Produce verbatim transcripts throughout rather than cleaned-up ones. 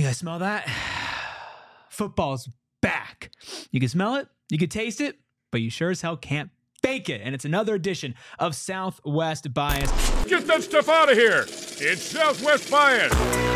guys smell that? Football's back. You can smell it, you can taste it, but you sure as hell can't fake it. And it's another edition of Southwest Bias. Get that stuff out of here. It's Southwest Bias.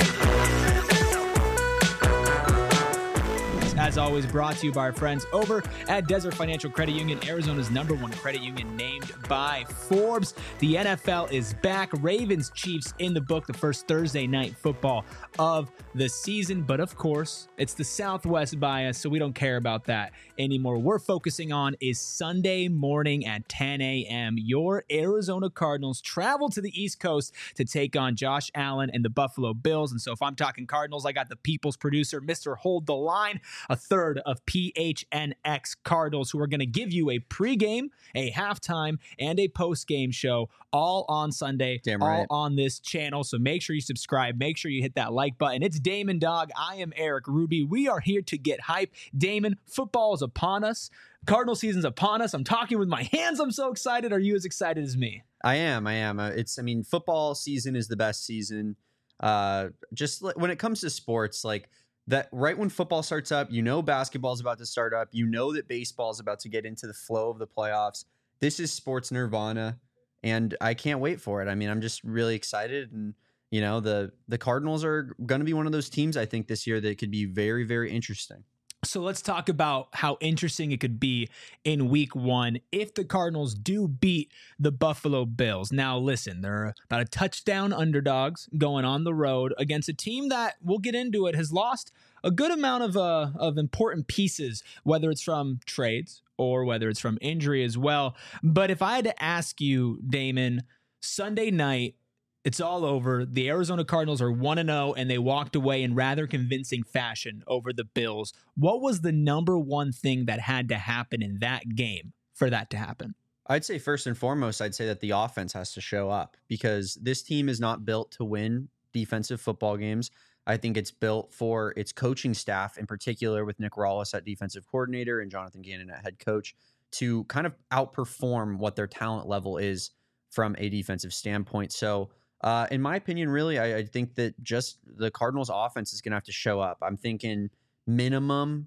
As always, brought to you by our friends over at Desert Financial Credit Union, Arizona's number one credit union, named by Forbes. The N F L is back. Ravens Chiefs in the book, the first Thursday night football of the season. But of course, it's the Southwest Bias, so we don't care about that anymore. We're focusing on is Sunday morning at ten a.m. Your Arizona Cardinals travel to the East Coast to take on Josh Allen and the Buffalo Bills. And so if I'm talking Cardinals, I got the people's producer, Mister Hold the Line, a third of P H N X Cardinals, who are going to give you a pregame, a halftime, and a postgame show all on Sunday, Damn all right. on this channel. So make sure you subscribe. Make sure you hit that like button. It's Damon Dog. I am Eric Ruby. We are here to get hype. Damon, football is upon us. Cardinal season's upon us. I'm talking with my hands. I'm so excited. Are you as excited as me? I am. I am. Uh, It's. I mean, football season is the best season. Uh, just like when it comes to sports, like that. Right when football starts up, you know basketball is about to start up. You know that baseball is about to get into the flow of the playoffs. This is sports nirvana, and I can't wait for it. I mean, I'm just really excited, and you know the the Cardinals are going to be one of those teams I think this year that could be very, very interesting. So let's talk about how interesting it could be in week one if the Cardinals do beat the Buffalo Bills. Now, listen, they're about a touchdown underdogs going on the road against a team that, we'll get into it, has lost a good amount of uh, of important pieces, whether it's from trades or whether it's from injury as well. But if I had to ask you, Damon, Sunday night, it's all over. The Arizona Cardinals are one and oh, and they walked away in rather convincing fashion over the Bills. What was the number one thing that had to happen in that game for that to happen? I'd say first and foremost, I'd say that the offense has to show up because this team is not built to win defensive football games. I think it's built for its coaching staff, in particular with Nick Rawlis at defensive coordinator and Jonathan Gannon at head coach, to kind of outperform what their talent level is from a defensive standpoint. So, Uh, in my opinion, really, I, I think that just the Cardinals offense is going to have to show up. I'm thinking minimum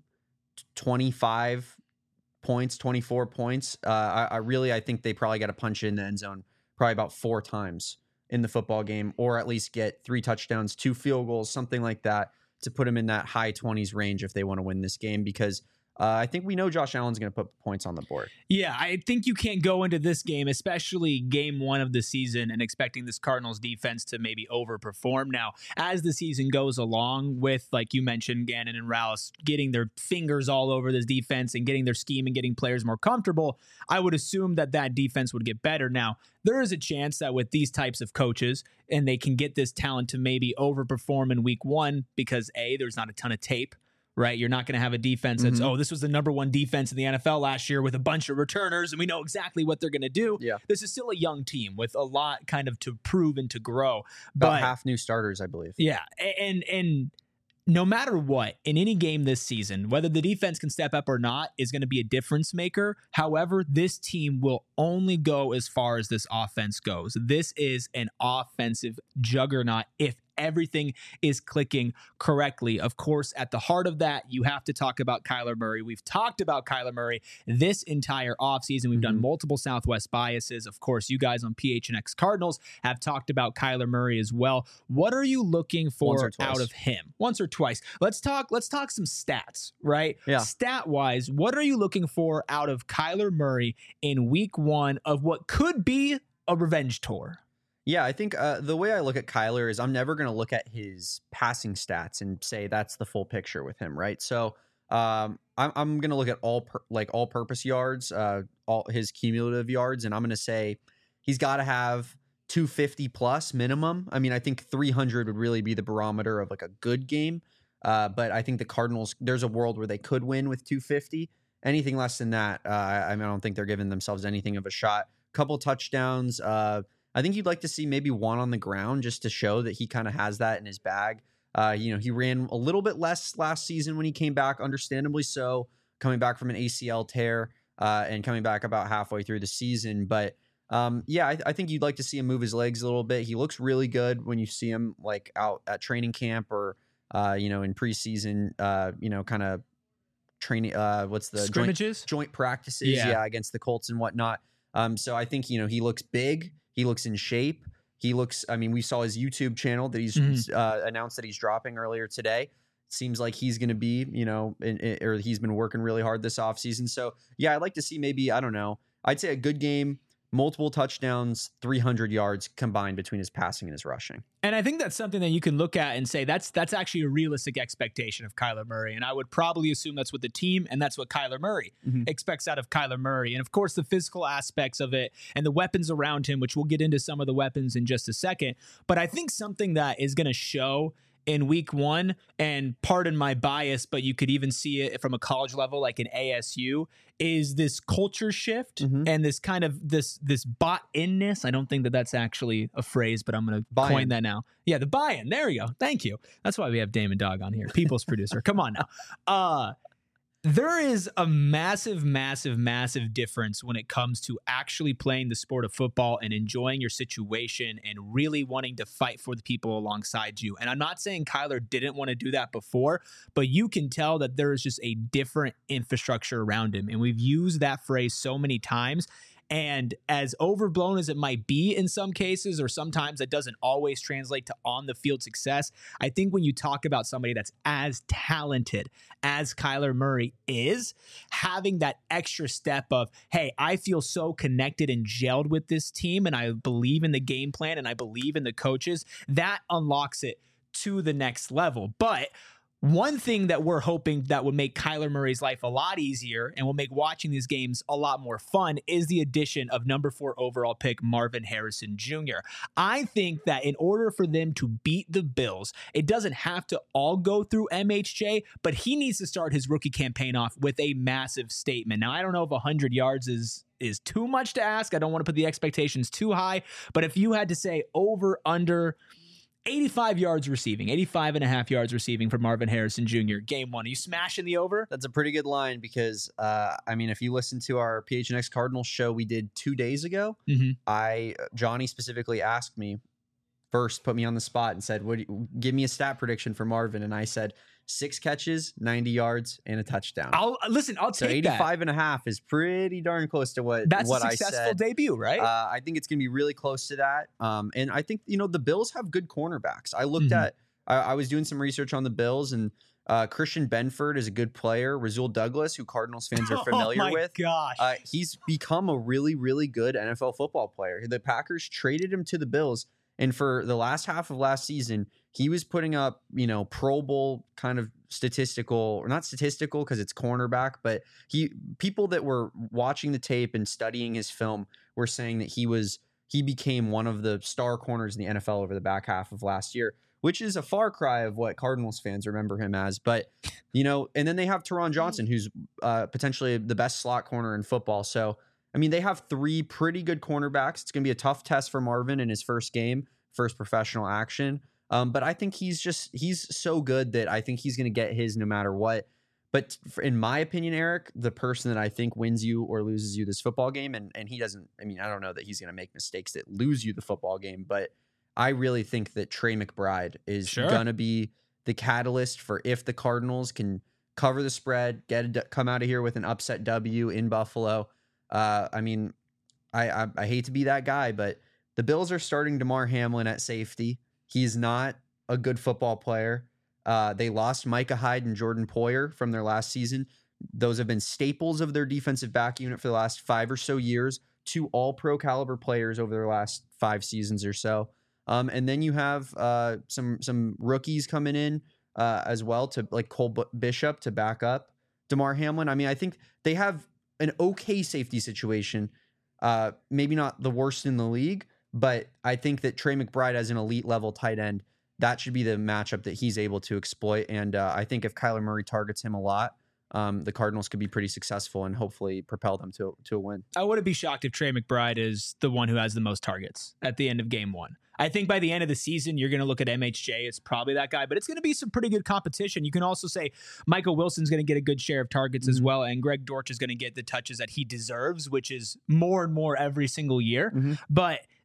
twenty-five points, twenty-four points. Uh, I, I really, I think they probably got to punch in the end zone probably about four times in the football game, or at least get three touchdowns, two field goals, something like that, to put them in that high twenties range if they want to win this game, because Uh, I think we know Josh Allen's going to put points on the board. Yeah, I think you can't go into this game, especially game one of the season, and expecting this Cardinals defense to maybe overperform. Now, as the season goes along with, like you mentioned, Gannon and Rawlis getting their fingers all over this defense and getting their scheme and getting players more comfortable, I would assume that that defense would get better. Now, there is a chance that with these types of coaches, and they can get this talent to maybe overperform in week one because, A, there's not a ton of tape. Right, you're not going to have a defense that's, mm-hmm. oh, this was the number one defense in the N F L last year with a bunch of returners, and we know exactly what they're going to do. Yeah. This is still a young team with a lot kind of to prove and to grow. About but, half new starters, I believe. Yeah, and and no matter what, in any game this season, whether the defense can step up or not is going to be a difference maker. However, this team will only go as far as this offense goes. This is an offensive juggernaut if everything is clicking correctly. Of course, at the heart of that, you have to talk about Kyler Murray. We've talked about Kyler Murray this entire offseason. We've mm-hmm. done multiple Southwest biases. Of course, you guys on P H N X Cardinals have talked about Kyler Murray as well. What are you looking for out of him? Once or twice. Let's talk, let's talk some stats, right? Yeah. Stat-wise, what are you looking for out of Kyler Murray in week one of what could be a revenge tour? Yeah, I think uh, the way I look at Kyler is I'm never going to look at his passing stats and say that's the full picture with him, right? So um, I'm, I'm going to look at all per, like all purpose yards, uh, all his cumulative yards, and I'm going to say he's got to have two fifty plus minimum. I mean, I think three hundred would really be the barometer of like a good game, uh, but I think the Cardinals, there's a world where they could win with two fifty. Anything less than that, uh, I, I mean, I don't think they're giving themselves anything of a shot. Couple touchdowns, uh, I think you'd like to see maybe one on the ground just to show that he kind of has that in his bag. Uh, you know, he ran a little bit less last season when he came back, understandably so, coming back from an A C L tear uh, and coming back about halfway through the season. But um, yeah, I, I think you'd like to see him move his legs a little bit. He looks really good when you see him like out at training camp or uh, you know, in preseason, uh, you know, kind of training. Uh, what's the scrimmages, joint, joint practices? Yeah. yeah, against the Colts and whatnot. Um, so I think you know he looks big. He looks in shape. He looks. I mean, we saw his YouTube channel that he's Mhm. uh, announced that he's dropping earlier today. Seems like he's going to be, you know, in, in, or he's been working really hard this offseason. So yeah, I'd like to see maybe I don't know. I'd say a good game. Multiple touchdowns, three hundred yards combined between his passing and his rushing. And I think that's something that you can look at and say that's that's actually a realistic expectation of Kyler Murray. And I would probably assume that's what the team and that's what Kyler Murray Mm-hmm. expects out of Kyler Murray. And of course, the physical aspects of it and the weapons around him, which we'll get into some of the weapons in just a second. But I think something that is going to show in week one, and pardon my bias, but you could even see it from a college level, like in A S U, is this culture shift Mhm. and this kind of this this bought-inness. I don't think that that's actually a phrase, but I'm going to Buy-in. coin that now. Yeah, the buy-in. There you go. Thank you. That's why we have Damon Dog on here, people's producer. Come on now. Uh, there is a massive, massive, massive difference when it comes to actually playing the sport of football and enjoying your situation and really wanting to fight for the people alongside you. And I'm not saying Kyler didn't want to do that before, but you can tell that there is just a different infrastructure around him. And we've used that phrase so many times. And as overblown as it might be in some cases, or sometimes it doesn't always translate to on the field success, I think when you talk about somebody that's as talented as Kyler Murray is, having that extra step of, hey, I feel so connected and gelled with this team, and I believe in the game plan, and I believe in the coaches, that unlocks it to the next level. But one thing that we're hoping that would make Kyler Murray's life a lot easier and will make watching these games a lot more fun is the addition of number four overall pick Marvin Harrison Junior I think that in order for them to beat the Bills, it doesn't have to all go through M H J, but he needs to start his rookie campaign off with a massive statement. Now, I don't know if one hundred yards is is too much to ask. I don't want to put the expectations too high, but if you had to say over, under eighty-five yards receiving, eighty-five and a half yards receiving for Marvin Harrison Junior Game one. Are you smashing the over? That's a pretty good line because, uh, I mean, if you listen to our P H N X Cardinals show we did two days ago, Mm-hmm. I Johnny specifically asked me first, put me on the spot and said, "What? Do you, give me a stat prediction for Marvin." And I said, six catches, ninety yards, and a touchdown. I'll listen. I'll so take eighty-five that. and a half is pretty darn close to what, That's what a I successful said. debut, right? Uh, I think it's going to be really close to that. Um, and I think, you know, the Bills have good cornerbacks. I looked Mhm. at, I, I was doing some research on the Bills, and uh, Christian Benford is a good player. Rasul Douglas, who Cardinals fans are familiar oh my with. gosh. Uh, he's become a really, really good N F L football player. The Packers traded him to the Bills, and for the last half of last season, he was putting up, you know, Pro Bowl kind of statistical, or not statistical because it's cornerback, but he people that were watching the tape and studying his film were saying that he was he became one of the star corners in the N F L over the back half of last year, which is a far cry of what Cardinals fans remember him as. But, you know, and then they have Teron Johnson, who's uh, potentially the best slot corner in football. So, I mean, they have three pretty good cornerbacks. It's going to be a tough test for Marvin in his first game, first professional action. Um, but I think he's just, he's so good that I think he's going to get his no matter what. But for, in my opinion, Eric, the person that I think wins you or loses you this football game, and, and he doesn't, I mean, I don't know that he's going to make mistakes that lose you the football game, but I really think that Trey McBride is Sure. going to be the catalyst for if the Cardinals can cover the spread, get a, come out of here with an upset W in Buffalo. Uh, I mean, I, I I hate to be that guy, but the Bills are starting DeMar Hamlin at safety. He's not a good football player. Uh, they lost Micah Hyde and Jordan Poyer from their last season. Those have been staples of their defensive back unit for the last five or so years. Two all-pro caliber players over their last five seasons or so. Um, and then you have uh, some some rookies coming in uh, as well, to like Cole B- Bishop to back up DeMar Hamlin. I mean, I think they have an okay safety situation. Uh, maybe not the worst in the league, but I think that Trey McBride as an elite level tight end, that should be the matchup that he's able to exploit. And uh, I think if Kyler Murray targets him a lot, um, the Cardinals could be pretty successful and hopefully propel them to, to a win. I wouldn't be shocked if Trey McBride is the one who has the most targets at the end of game one. I think by the end of the season, you're going to look at M H J. It's probably that guy, but it's going to be some pretty good competition. You can also say Michael Wilson's going to get a good share of targets mm-hmm. as well, and Greg Dortch is going to get the touches that he deserves, which is more and more every single year. Mm-hmm. But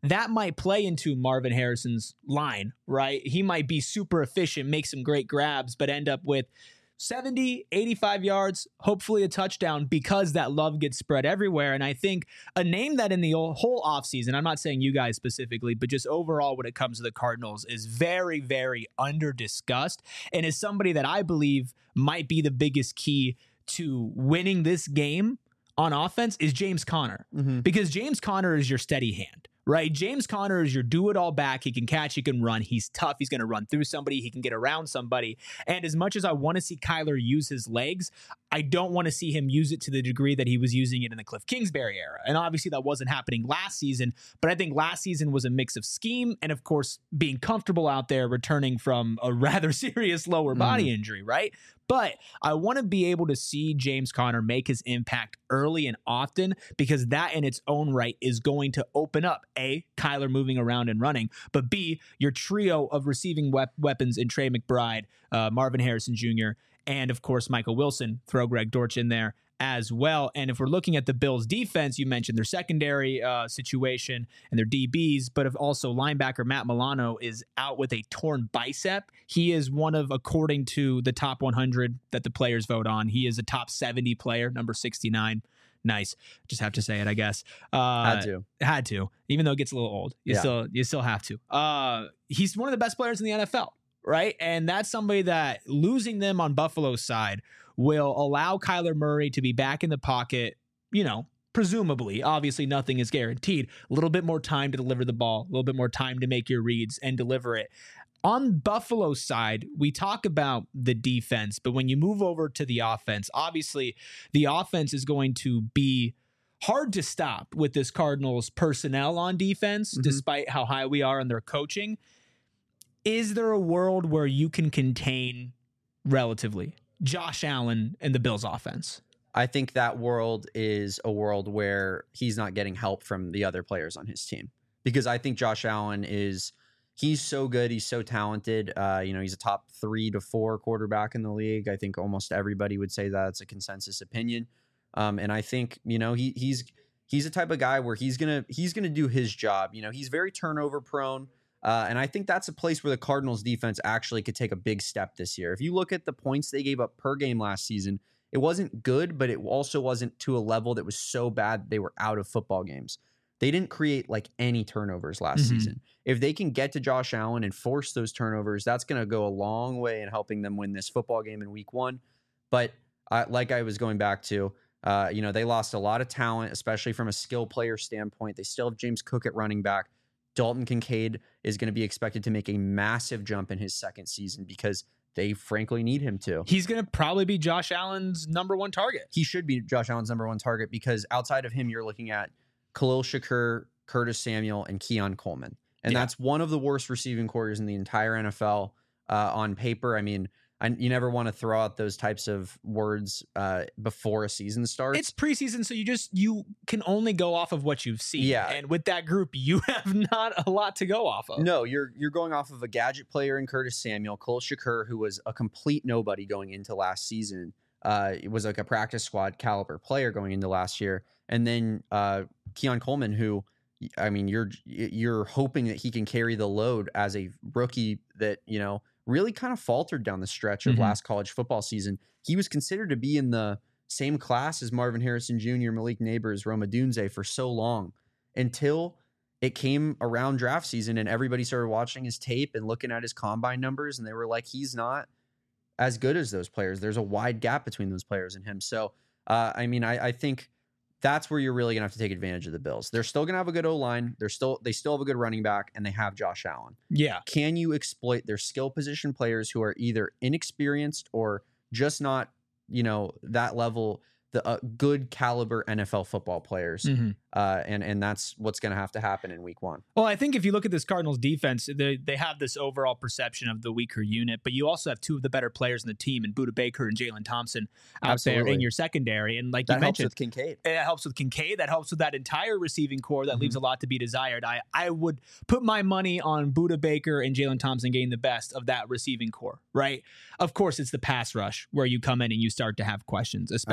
that might play into Marvin Harrison's line, right? He might be super efficient, make some great grabs, but end up with seventy, eighty-five yards, hopefully a touchdown, because that love gets spread everywhere. And I think a name that in the whole offseason, I'm not saying you guys specifically, but just overall when it comes to the Cardinals, is very, very under discussed and is somebody that I believe might be the biggest key to winning this game on offense is James Conner. Mm-hmm. Because James Conner is your steady hand. Right? James Conner is your do-it-all back. He can catch, he can run. He's tough. He's going to run through somebody. He can get around somebody. And as much as I want to see Kyler use his legs, I don't want to see him use it to the degree that he was using it in the Cliff Kingsbury era. And obviously that wasn't happening last season, but I think last season was a mix of scheme and, of course, being comfortable out there returning from a rather serious lower body mm. injury, right? But I want to be able to see James Conner make his impact early and often, because that in its own right is going to open up, A, Kyler moving around and running, but B, your trio of receiving wep- weapons in Trey McBride, uh, Marvin Harrison Junior, and of course, Michael Wilson. Throw Greg Dortch in there as well. And if we're looking at the Bills defense, you mentioned their secondary uh, situation and their D Bs, but if also linebacker Matt Milano is out with a torn bicep. He is one of, according to the top one hundred that the players vote on, he is a top seventy player, number sixty-nine. Nice. Just have to say it, I guess. Uh, had to. Had to. Even though it gets a little old. You yeah. still you still have to. Uh, he's one of the best players in the N F L, right? And that's somebody that losing them on Buffalo's side will allow Kyler Murray to be back in the pocket, you know, presumably. Obviously, nothing is guaranteed. A little bit more time to deliver the ball, a little bit more time to make your reads and deliver it. On Buffalo's side, we talk about the defense, but when you move over to the offense, obviously the offense is going to be hard to stop with this Cardinals personnel on defense, mm-hmm. despite how high we are on their coaching. Is there a world where you can contain relatively Josh Allen and the Bills offense? I think that world is a world where he's not getting help from the other players on his team, because I think Josh Allen is, he's so good. He's so talented. Uh, you know, he's a top three to four quarterback in the league. I think almost everybody would say that's a consensus opinion. Um, and I think, you know, he he's, he's the type of guy where he's going to, he's going to do his job. You know, he's very turnover prone. Uh, and I think that's a place where the Cardinals defense actually could take a big step this year. If you look at the points they gave up per game last season, it wasn't good, but it also wasn't to a level that was so bad that they were out of football games. They didn't create like any turnovers last mm-hmm. season. If they can get to Josh Allen and force those turnovers, that's going to go a long way in helping them win this football game in week one. But uh, like I was going back to, uh, you know, they lost a lot of talent, especially from a skill player standpoint. They still have James Cook at running back. Dalton Kincaid is going to be expected to make a massive jump in his second season because they frankly need him to. He's going to probably be Josh Allen's number one target. He should be Josh Allen's number one target because outside of him, you're looking at Khalil Shakur, Curtis Samuel, and Keon Coleman. And yeah. that's one of the worst receiving corps in the entire N F L uh, on paper. I mean, I, you never want to throw out those types of words uh, before a season starts. It's preseason, so you just you can only go off of what you've seen. Yeah. And with that group, you have not a lot to go off of. No, you're you're going off of a gadget player in Curtis Samuel, Khalil Shakur, who was a complete nobody going into last season. Uh, it was like a practice squad caliber player going into last year, and then uh, Keon Coleman, who, I mean, you're you're hoping that he can carry the load as a rookie that, you know, really kind of faltered down the stretch of mm-hmm. last college football season. He was considered to be in the same class as Marvin Harrison Junior, Malik Neighbors, Rome Odunze for so long until it came around draft season and everybody started watching his tape and looking at his combine numbers, and they were like, he's not as good as those players. There's a wide gap between those players and him. So, uh, I mean, I, I think that's where you're really going to have to take advantage of the Bills. They're still going to have a good O-line. They're still, they still have a good running back, and they have Josh Allen. Yeah. Can you exploit their skill position players who are either inexperienced or just not, you know, that level, the uh, good caliber N F L football players? Mm-hmm. Uh, and, and that's what's going to have to happen in week one. Well, I think if you look at this Cardinals defense, they, they have this overall perception of the weaker unit, but you also have two of the better players in the team in Budda Baker and Jalen Thompson out Absolutely. there in your secondary. And like that you mentioned, helps with Kincaid. It helps with Kincaid. That helps with that entire receiving core that mm-hmm. leaves a lot to be desired. I, I would put my money on Budda Baker and Jalen Thompson getting the best of that receiving core, right? Of course, it's the pass rush where you come in and you start to have questions, especially Absolutely. with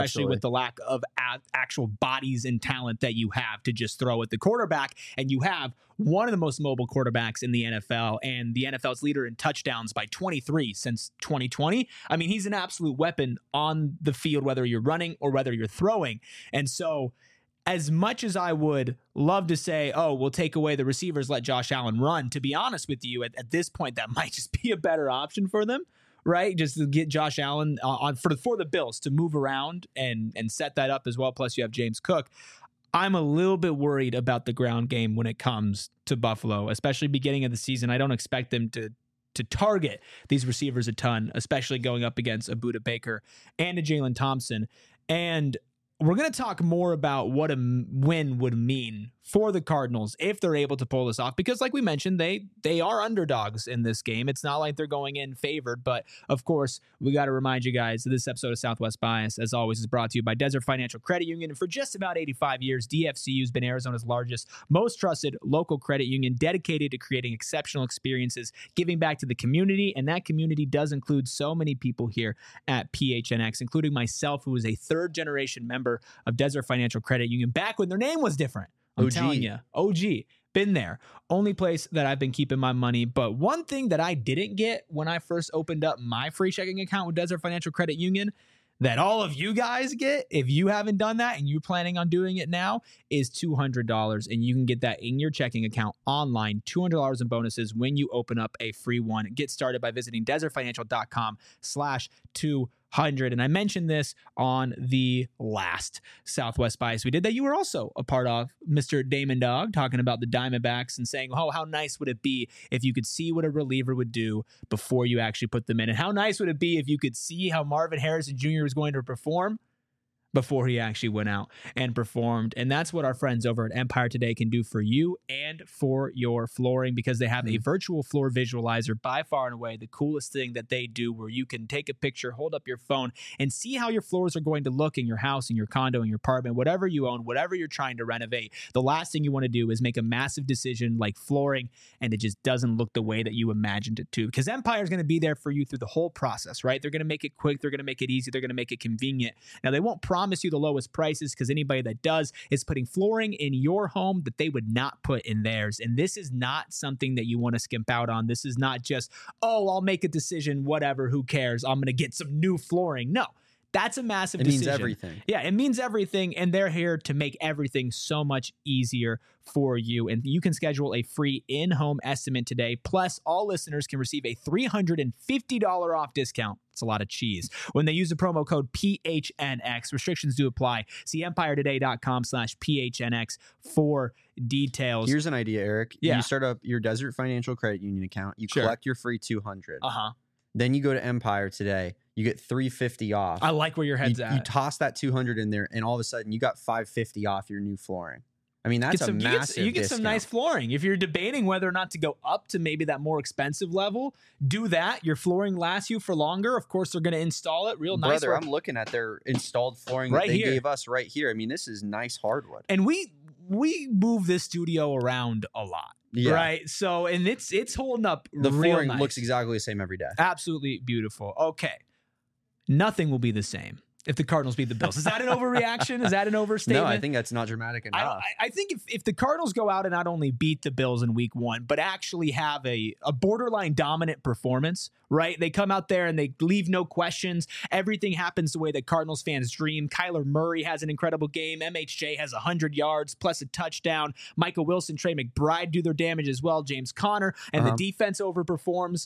the lack of a- actual bodies and talent that you have to just throw at the quarterback. And you have one of the most mobile quarterbacks in the N F L and the N F L's leader in touchdowns by twenty-three since twenty twenty. I mean, he's an absolute weapon on the field, whether you're running or whether you're throwing. And so as much as I would love to say, oh, we'll take away the receivers, let Josh Allen run, to be honest with you, at, at this point, that might just be a better option for them, right? Just to get Josh Allen uh, on for, for the Bills to move around and, and set that up as well. Plus, you have James Cook. I'm a little bit worried about the ground game when it comes to Buffalo, especially beginning of the season. I don't expect them to to target these receivers a ton, especially going up against a Budda Baker and a Jalen Thompson. And we're going to talk more about what a win would mean for the Cardinals if they're able to pull this off, because like we mentioned, they they are underdogs in this game. It's not like they're going in favored, but of course, we got to remind you guys that this episode of Southwest Bias, as always, is brought to you by Desert Financial Credit Union. And for just about eighty-five years, D F C U has been Arizona's largest, most trusted local credit union, dedicated to creating exceptional experiences, giving back to the community, and that community does include so many people here at P H N X, including myself, who is a third-generation member of Desert Financial Credit Union back when their name was different. I'm O G. telling you, O G, been there. Only place that I've been keeping my money. But one thing that I didn't get when I first opened up my free checking account with Desert Financial Credit Union, that all of you guys get, if you haven't done that and you're planning on doing it now, is two hundred dollars. And you can get that in your checking account online, two hundred dollars in bonuses when you open up a free one. Get started by visiting desertfinancial.com slash 200. And I mentioned this on the last Southwest Bias we did that you were also a part of, Mister Damon Dog, talking about the Diamondbacks and saying, oh, how nice would it be if you could see what a reliever would do before you actually put them in? And how nice would it be if you could see how Marvin Harrison Junior was going to perform before he actually went out and performed. And that's what our friends over at Empire Today can do for you and for your flooring, because they have a virtual floor visualizer, by far and away the coolest thing that they do, where you can take a picture, hold up your phone, and see how your floors are going to look in your house, in your condo, in your apartment, whatever you own, whatever you're trying to renovate. The last thing you want to do is make a massive decision like flooring and it just doesn't look the way that you imagined it to, because Empire is going to be there for you through the whole process, right? They're going to make it quick. They're going to make it easy. They're going to make it convenient. Now, they won't promise promise you the lowest prices, because anybody that does is putting flooring in your home that they would not put in theirs. And this is not something that you want to skimp out on. This is not just, oh, I'll make a decision, whatever, who cares? I'm going to get some new flooring. No. That's a massive it decision. It means everything. Yeah, it means everything, and they're here to make everything so much easier for you. And you can schedule a free in-home estimate today. Plus, all listeners can receive a three hundred fifty dollars off discount. It's a lot of cheese when they use the promo code P H N X. Restrictions do apply. See empiretoday.com slash PHNX for details. Here's an idea, Eric. Yeah. You start up your Desert Financial Credit Union account. You Sure. collect your free two hundred. Uh-huh. Then you go to Empire Today. You get three hundred fifty off. I like where your head's you, at. You toss that two hundred in there, and all of a sudden, you got five hundred fifty off your new flooring. I mean, that's Get some, a you get, massive you get discount. some nice flooring. If you're debating whether or not to go up to maybe that more expensive level, do that. Your flooring lasts you for longer. Of course, they're going to install it real nice. Brother, I'm looking at their installed flooring Right that they here. gave us right here. I mean, this is nice hardwood. And we we move this studio around a lot. Yeah. Right. So, and it's it's holding up The real flooring nice. looks exactly the same every day. Absolutely beautiful. Okay. Nothing will be the same if the Cardinals beat the Bills. Is that an overreaction? Is that an overstatement? No, I think that's not dramatic I, enough. I I think if, if the Cardinals go out and not only beat the Bills in week one, but actually have a, a borderline dominant performance, right? They come out there and they leave no questions. Everything happens the way that Cardinals fans dream. Kyler Murray has an incredible game. M H J has one hundred yards plus a touchdown. Michael Wilson, Trey McBride do their damage as well. James Conner, and Uh-huh. the defense overperforms.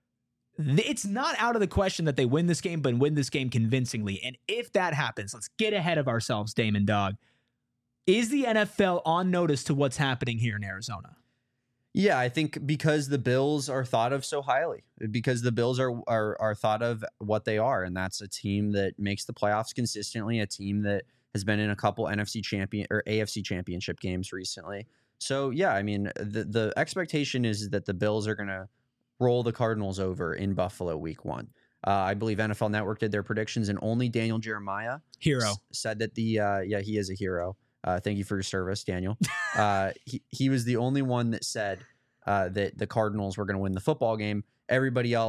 It's not out of the question that they win this game, but win this game convincingly. And if that happens, let's get ahead of ourselves, Damon Dog. Is the N F L on notice to what's happening here in Arizona? Yeah, I think because the Bills are thought of so highly, because the Bills are, are are thought of what they are, and that's a team that makes the playoffs consistently, a team that has been in a couple N F C champion or A F C championship games recently. So yeah, I mean, the the expectation is that the Bills are going to roll the Cardinals over in Buffalo week one. Uh, I believe N F L Network did their predictions, and only Daniel Jeremiah Hero. s- said that the uh, yeah he is a hero. Uh, thank you for your service, Daniel. uh, he he was the only one that said uh, that the Cardinals were going to win the football game. Everybody else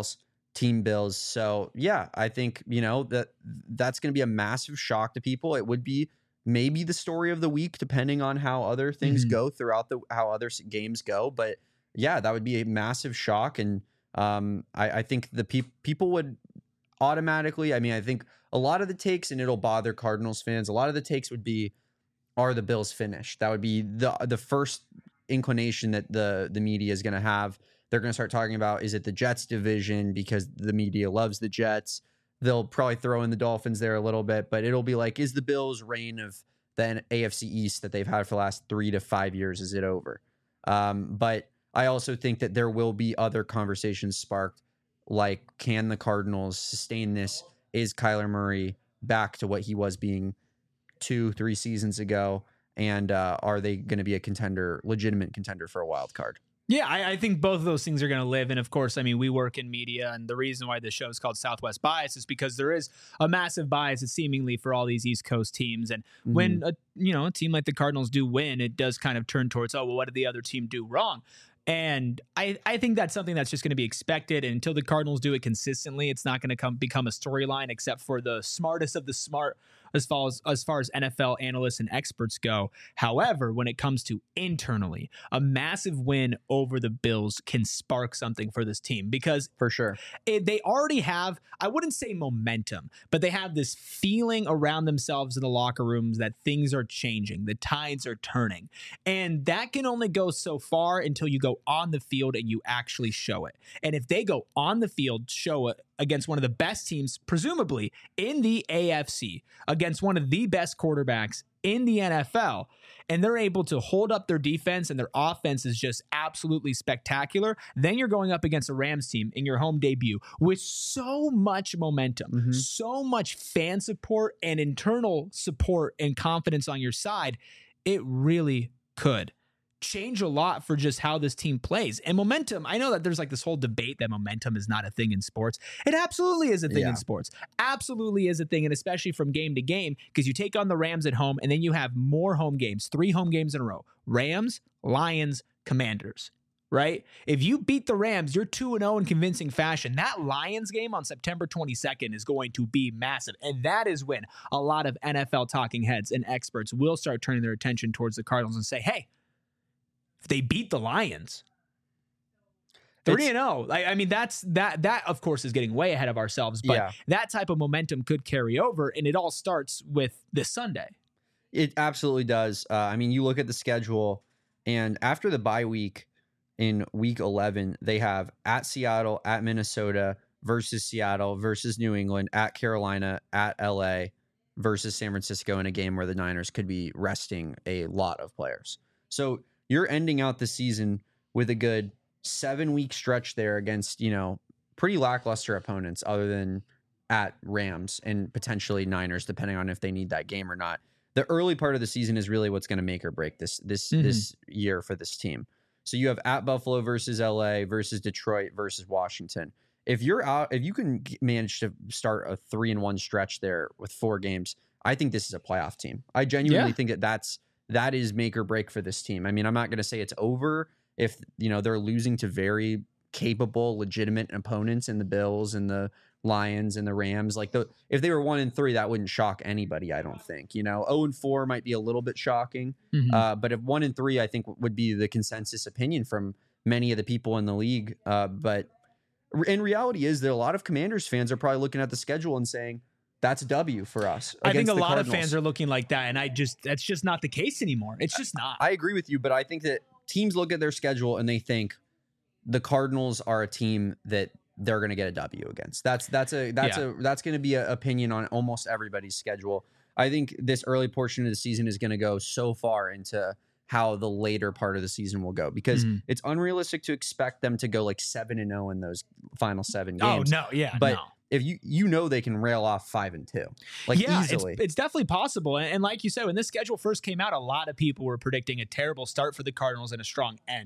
Team Bills. So yeah, I think, you know, that that's going to be a massive shock to people. It would be maybe the story of the week, depending on how other things Mhm. go throughout the, how other s- games go. But yeah, that would be a massive shock. And um, I, I think the peop people would automatically, I mean, I think a lot of the takes, and it'll bother Cardinals fans, a lot of the takes would be, are the Bills finished? That would be the the first inclination that the the media is going to have. They're going to start talking about, is it the Jets division, because the media loves the Jets. They'll probably throw in the Dolphins there a little bit, but it'll be like, is the Bills' reign of the A F C East that they've had for the last three to five years, is it over? Um, but I also think that there will be other conversations sparked, like, can the Cardinals sustain this? Is Kyler Murray back to what he was being two, three seasons ago? And uh, are they going to be a contender, legitimate contender for a wild card? Yeah, I, I think both of those things are going to live. And of course, I mean, we work in media, and the reason why this show is called Southwest Bias is because there is a massive bias, seemingly, for all these East Coast teams. And Mm-hmm. when a, you know, a team like the Cardinals do win, it does kind of turn towards, oh, well, what did the other team do wrong? And I, I think that's something that's just going to be expected. And until the Cardinals do it consistently, it's not going to come become a storyline, except for the smartest of the smart as far as as far as N F L analysts and experts go. However, when it comes to internally, a massive win over the Bills can spark something for this team, because For sure. it, they already have, I wouldn't say momentum, but they have this feeling around themselves in the locker rooms that things are changing, the tides are turning. And that can only go so far until you go on the field and you actually show it. And if they go on the field, show it against one of the best teams, presumably in the A F C, against one of the best quarterbacks in the N F L, and they're able to hold up their defense and their offense is just absolutely spectacular, then you're going up against a Rams team in your home debut with so much momentum, Mhm. so much fan support and internal support and confidence on your side. It really could change a lot for just how this team plays. And momentum, I know that there's like this whole debate that momentum is not a thing in sports. It absolutely is a thing Yeah. in sports. Absolutely is a thing, and especially from game to game, because you take on the Rams at home, and then you have more home games, three home games in a row. Rams, Lions, Commanders, right? If you beat the Rams, you're two and oh in convincing fashion. That Lions game on September twenty-second is going to be massive, and that is when a lot of N F L talking heads and experts will start turning their attention towards the Cardinals and say, hey, if they beat the Lions, three and oh. I, I mean, that's that. That of course is getting way ahead of ourselves, but Yeah. that type of momentum could carry over, and it all starts with this Sunday. It absolutely does. Uh, I mean, you look at the schedule, and after the bye week in week eleven, they have at Seattle, at Minnesota, versus Seattle, versus New England, at Carolina, at L A, versus San Francisco, in a game where the Niners could be resting a lot of players. So you're ending out the season with a good seven week stretch there against, you know, pretty lackluster opponents, other than at Rams and potentially Niners, depending on if they need that game or not. The early part of the season is really what's going to make or break this this Mhm. this year for this team. So you have at Buffalo versus L A versus Detroit versus Washington. If you're out, if you can g- manage to start a three and one stretch there with four games, I think this is a playoff team. I genuinely Yeah. think that that's that is make or break for this team. I mean, I'm not going to say it's over if, you know, they're losing to very capable, legitimate opponents in the Bills and the Lions and the Rams. Like, the if they were one and three, that wouldn't shock anybody. I don't think. You know, zero and four might be a little bit shocking, Mhm. uh, but if one and three, I think would be the consensus opinion from many of the people in the league. Uh, but in reality, is that a lot of Commanders fans are probably looking at the schedule and saying, "That's a W for us." I think against a the lot Cardinals. of fans are looking like that, and I just that's just not the case anymore. It's just not. I agree with you, but I think that teams look at their schedule and they think the Cardinals are a team that they're going to get a W against. That's that's a that's Yeah. a that's going to be an opinion on almost everybody's schedule. I think this early portion of the season is going to go so far into how the later part of the season will go, because Mhm. it's unrealistic to expect them to go like seven and zero in those final seven Oh games. no, yeah, but no. if you you know they can rail off five and two, like yeah, easily. It's, it's definitely possible. And, and like you said, when this schedule first came out, a lot of people were predicting a terrible start for the Cardinals and a strong end.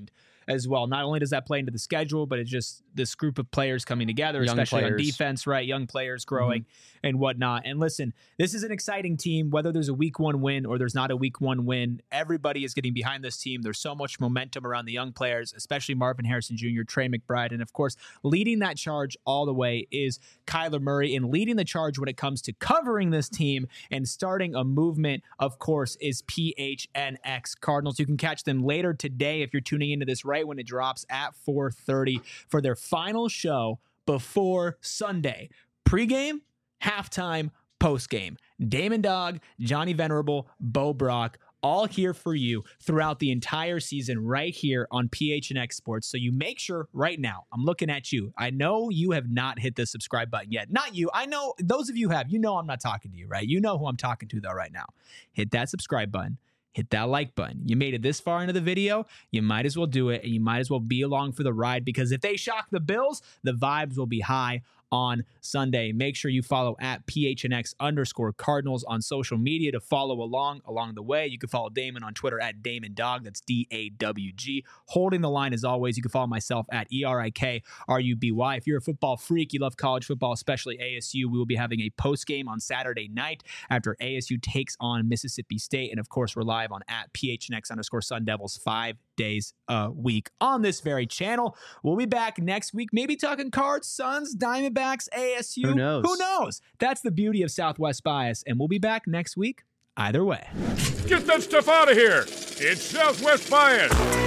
as well. Not only does that play into the schedule, but it's just this group of players coming together, Young especially players. on defense, right? Young players growing mm-hmm. and whatnot. And listen, this is an exciting team, whether there's a week one win or there's not a week one win. Everybody is getting behind this team. There's so much momentum around the young players, especially Marvin Harrison Junior, Trey McBride. And of course, leading that charge all the way is Kyler Murray, and leading the charge when it comes to covering this team and starting a movement, of course, is P H N X Cardinals. You can catch them later today if you're tuning into this right when it drops at four thirty for their final show before Sunday. Pre-game, halftime, post-game. Damon Dog, Johnny Venerable, Bo Brock, all here for you throughout the entire season right here on P H N X Sports. So you make sure right now, I'm looking at you. I know you have not hit the subscribe button yet. Not you. I know those of you have. You know I'm not talking to you, right? You know who I'm talking to, though, right now. Hit that subscribe button. Hit that like button. You made it this far into the video, you might as well do it, and you might as well be along for the ride, because if they shock the Bills, the vibes will be high on Sunday. Make sure you follow at P H N X underscore Cardinals on social media to follow along along the way. You can follow Damon on Twitter at Damon Dog. That's D A W G. Holding the line as always. You can follow myself at E R I K R U B Y. If you're a football freak, you love college football, especially A S U, we will be having a post game on Saturday night after A S U takes on Mississippi State. And of course, we're live on at P H N X underscore Sun Devils five days a week on this very channel. We'll be back next week, maybe talking Cards, Suns, Diamondbacks, A S U. Who knows? Who knows? That's the beauty of Southwest Bias, and we'll be back next week either way. Get that stuff out of here. It's Southwest Bias.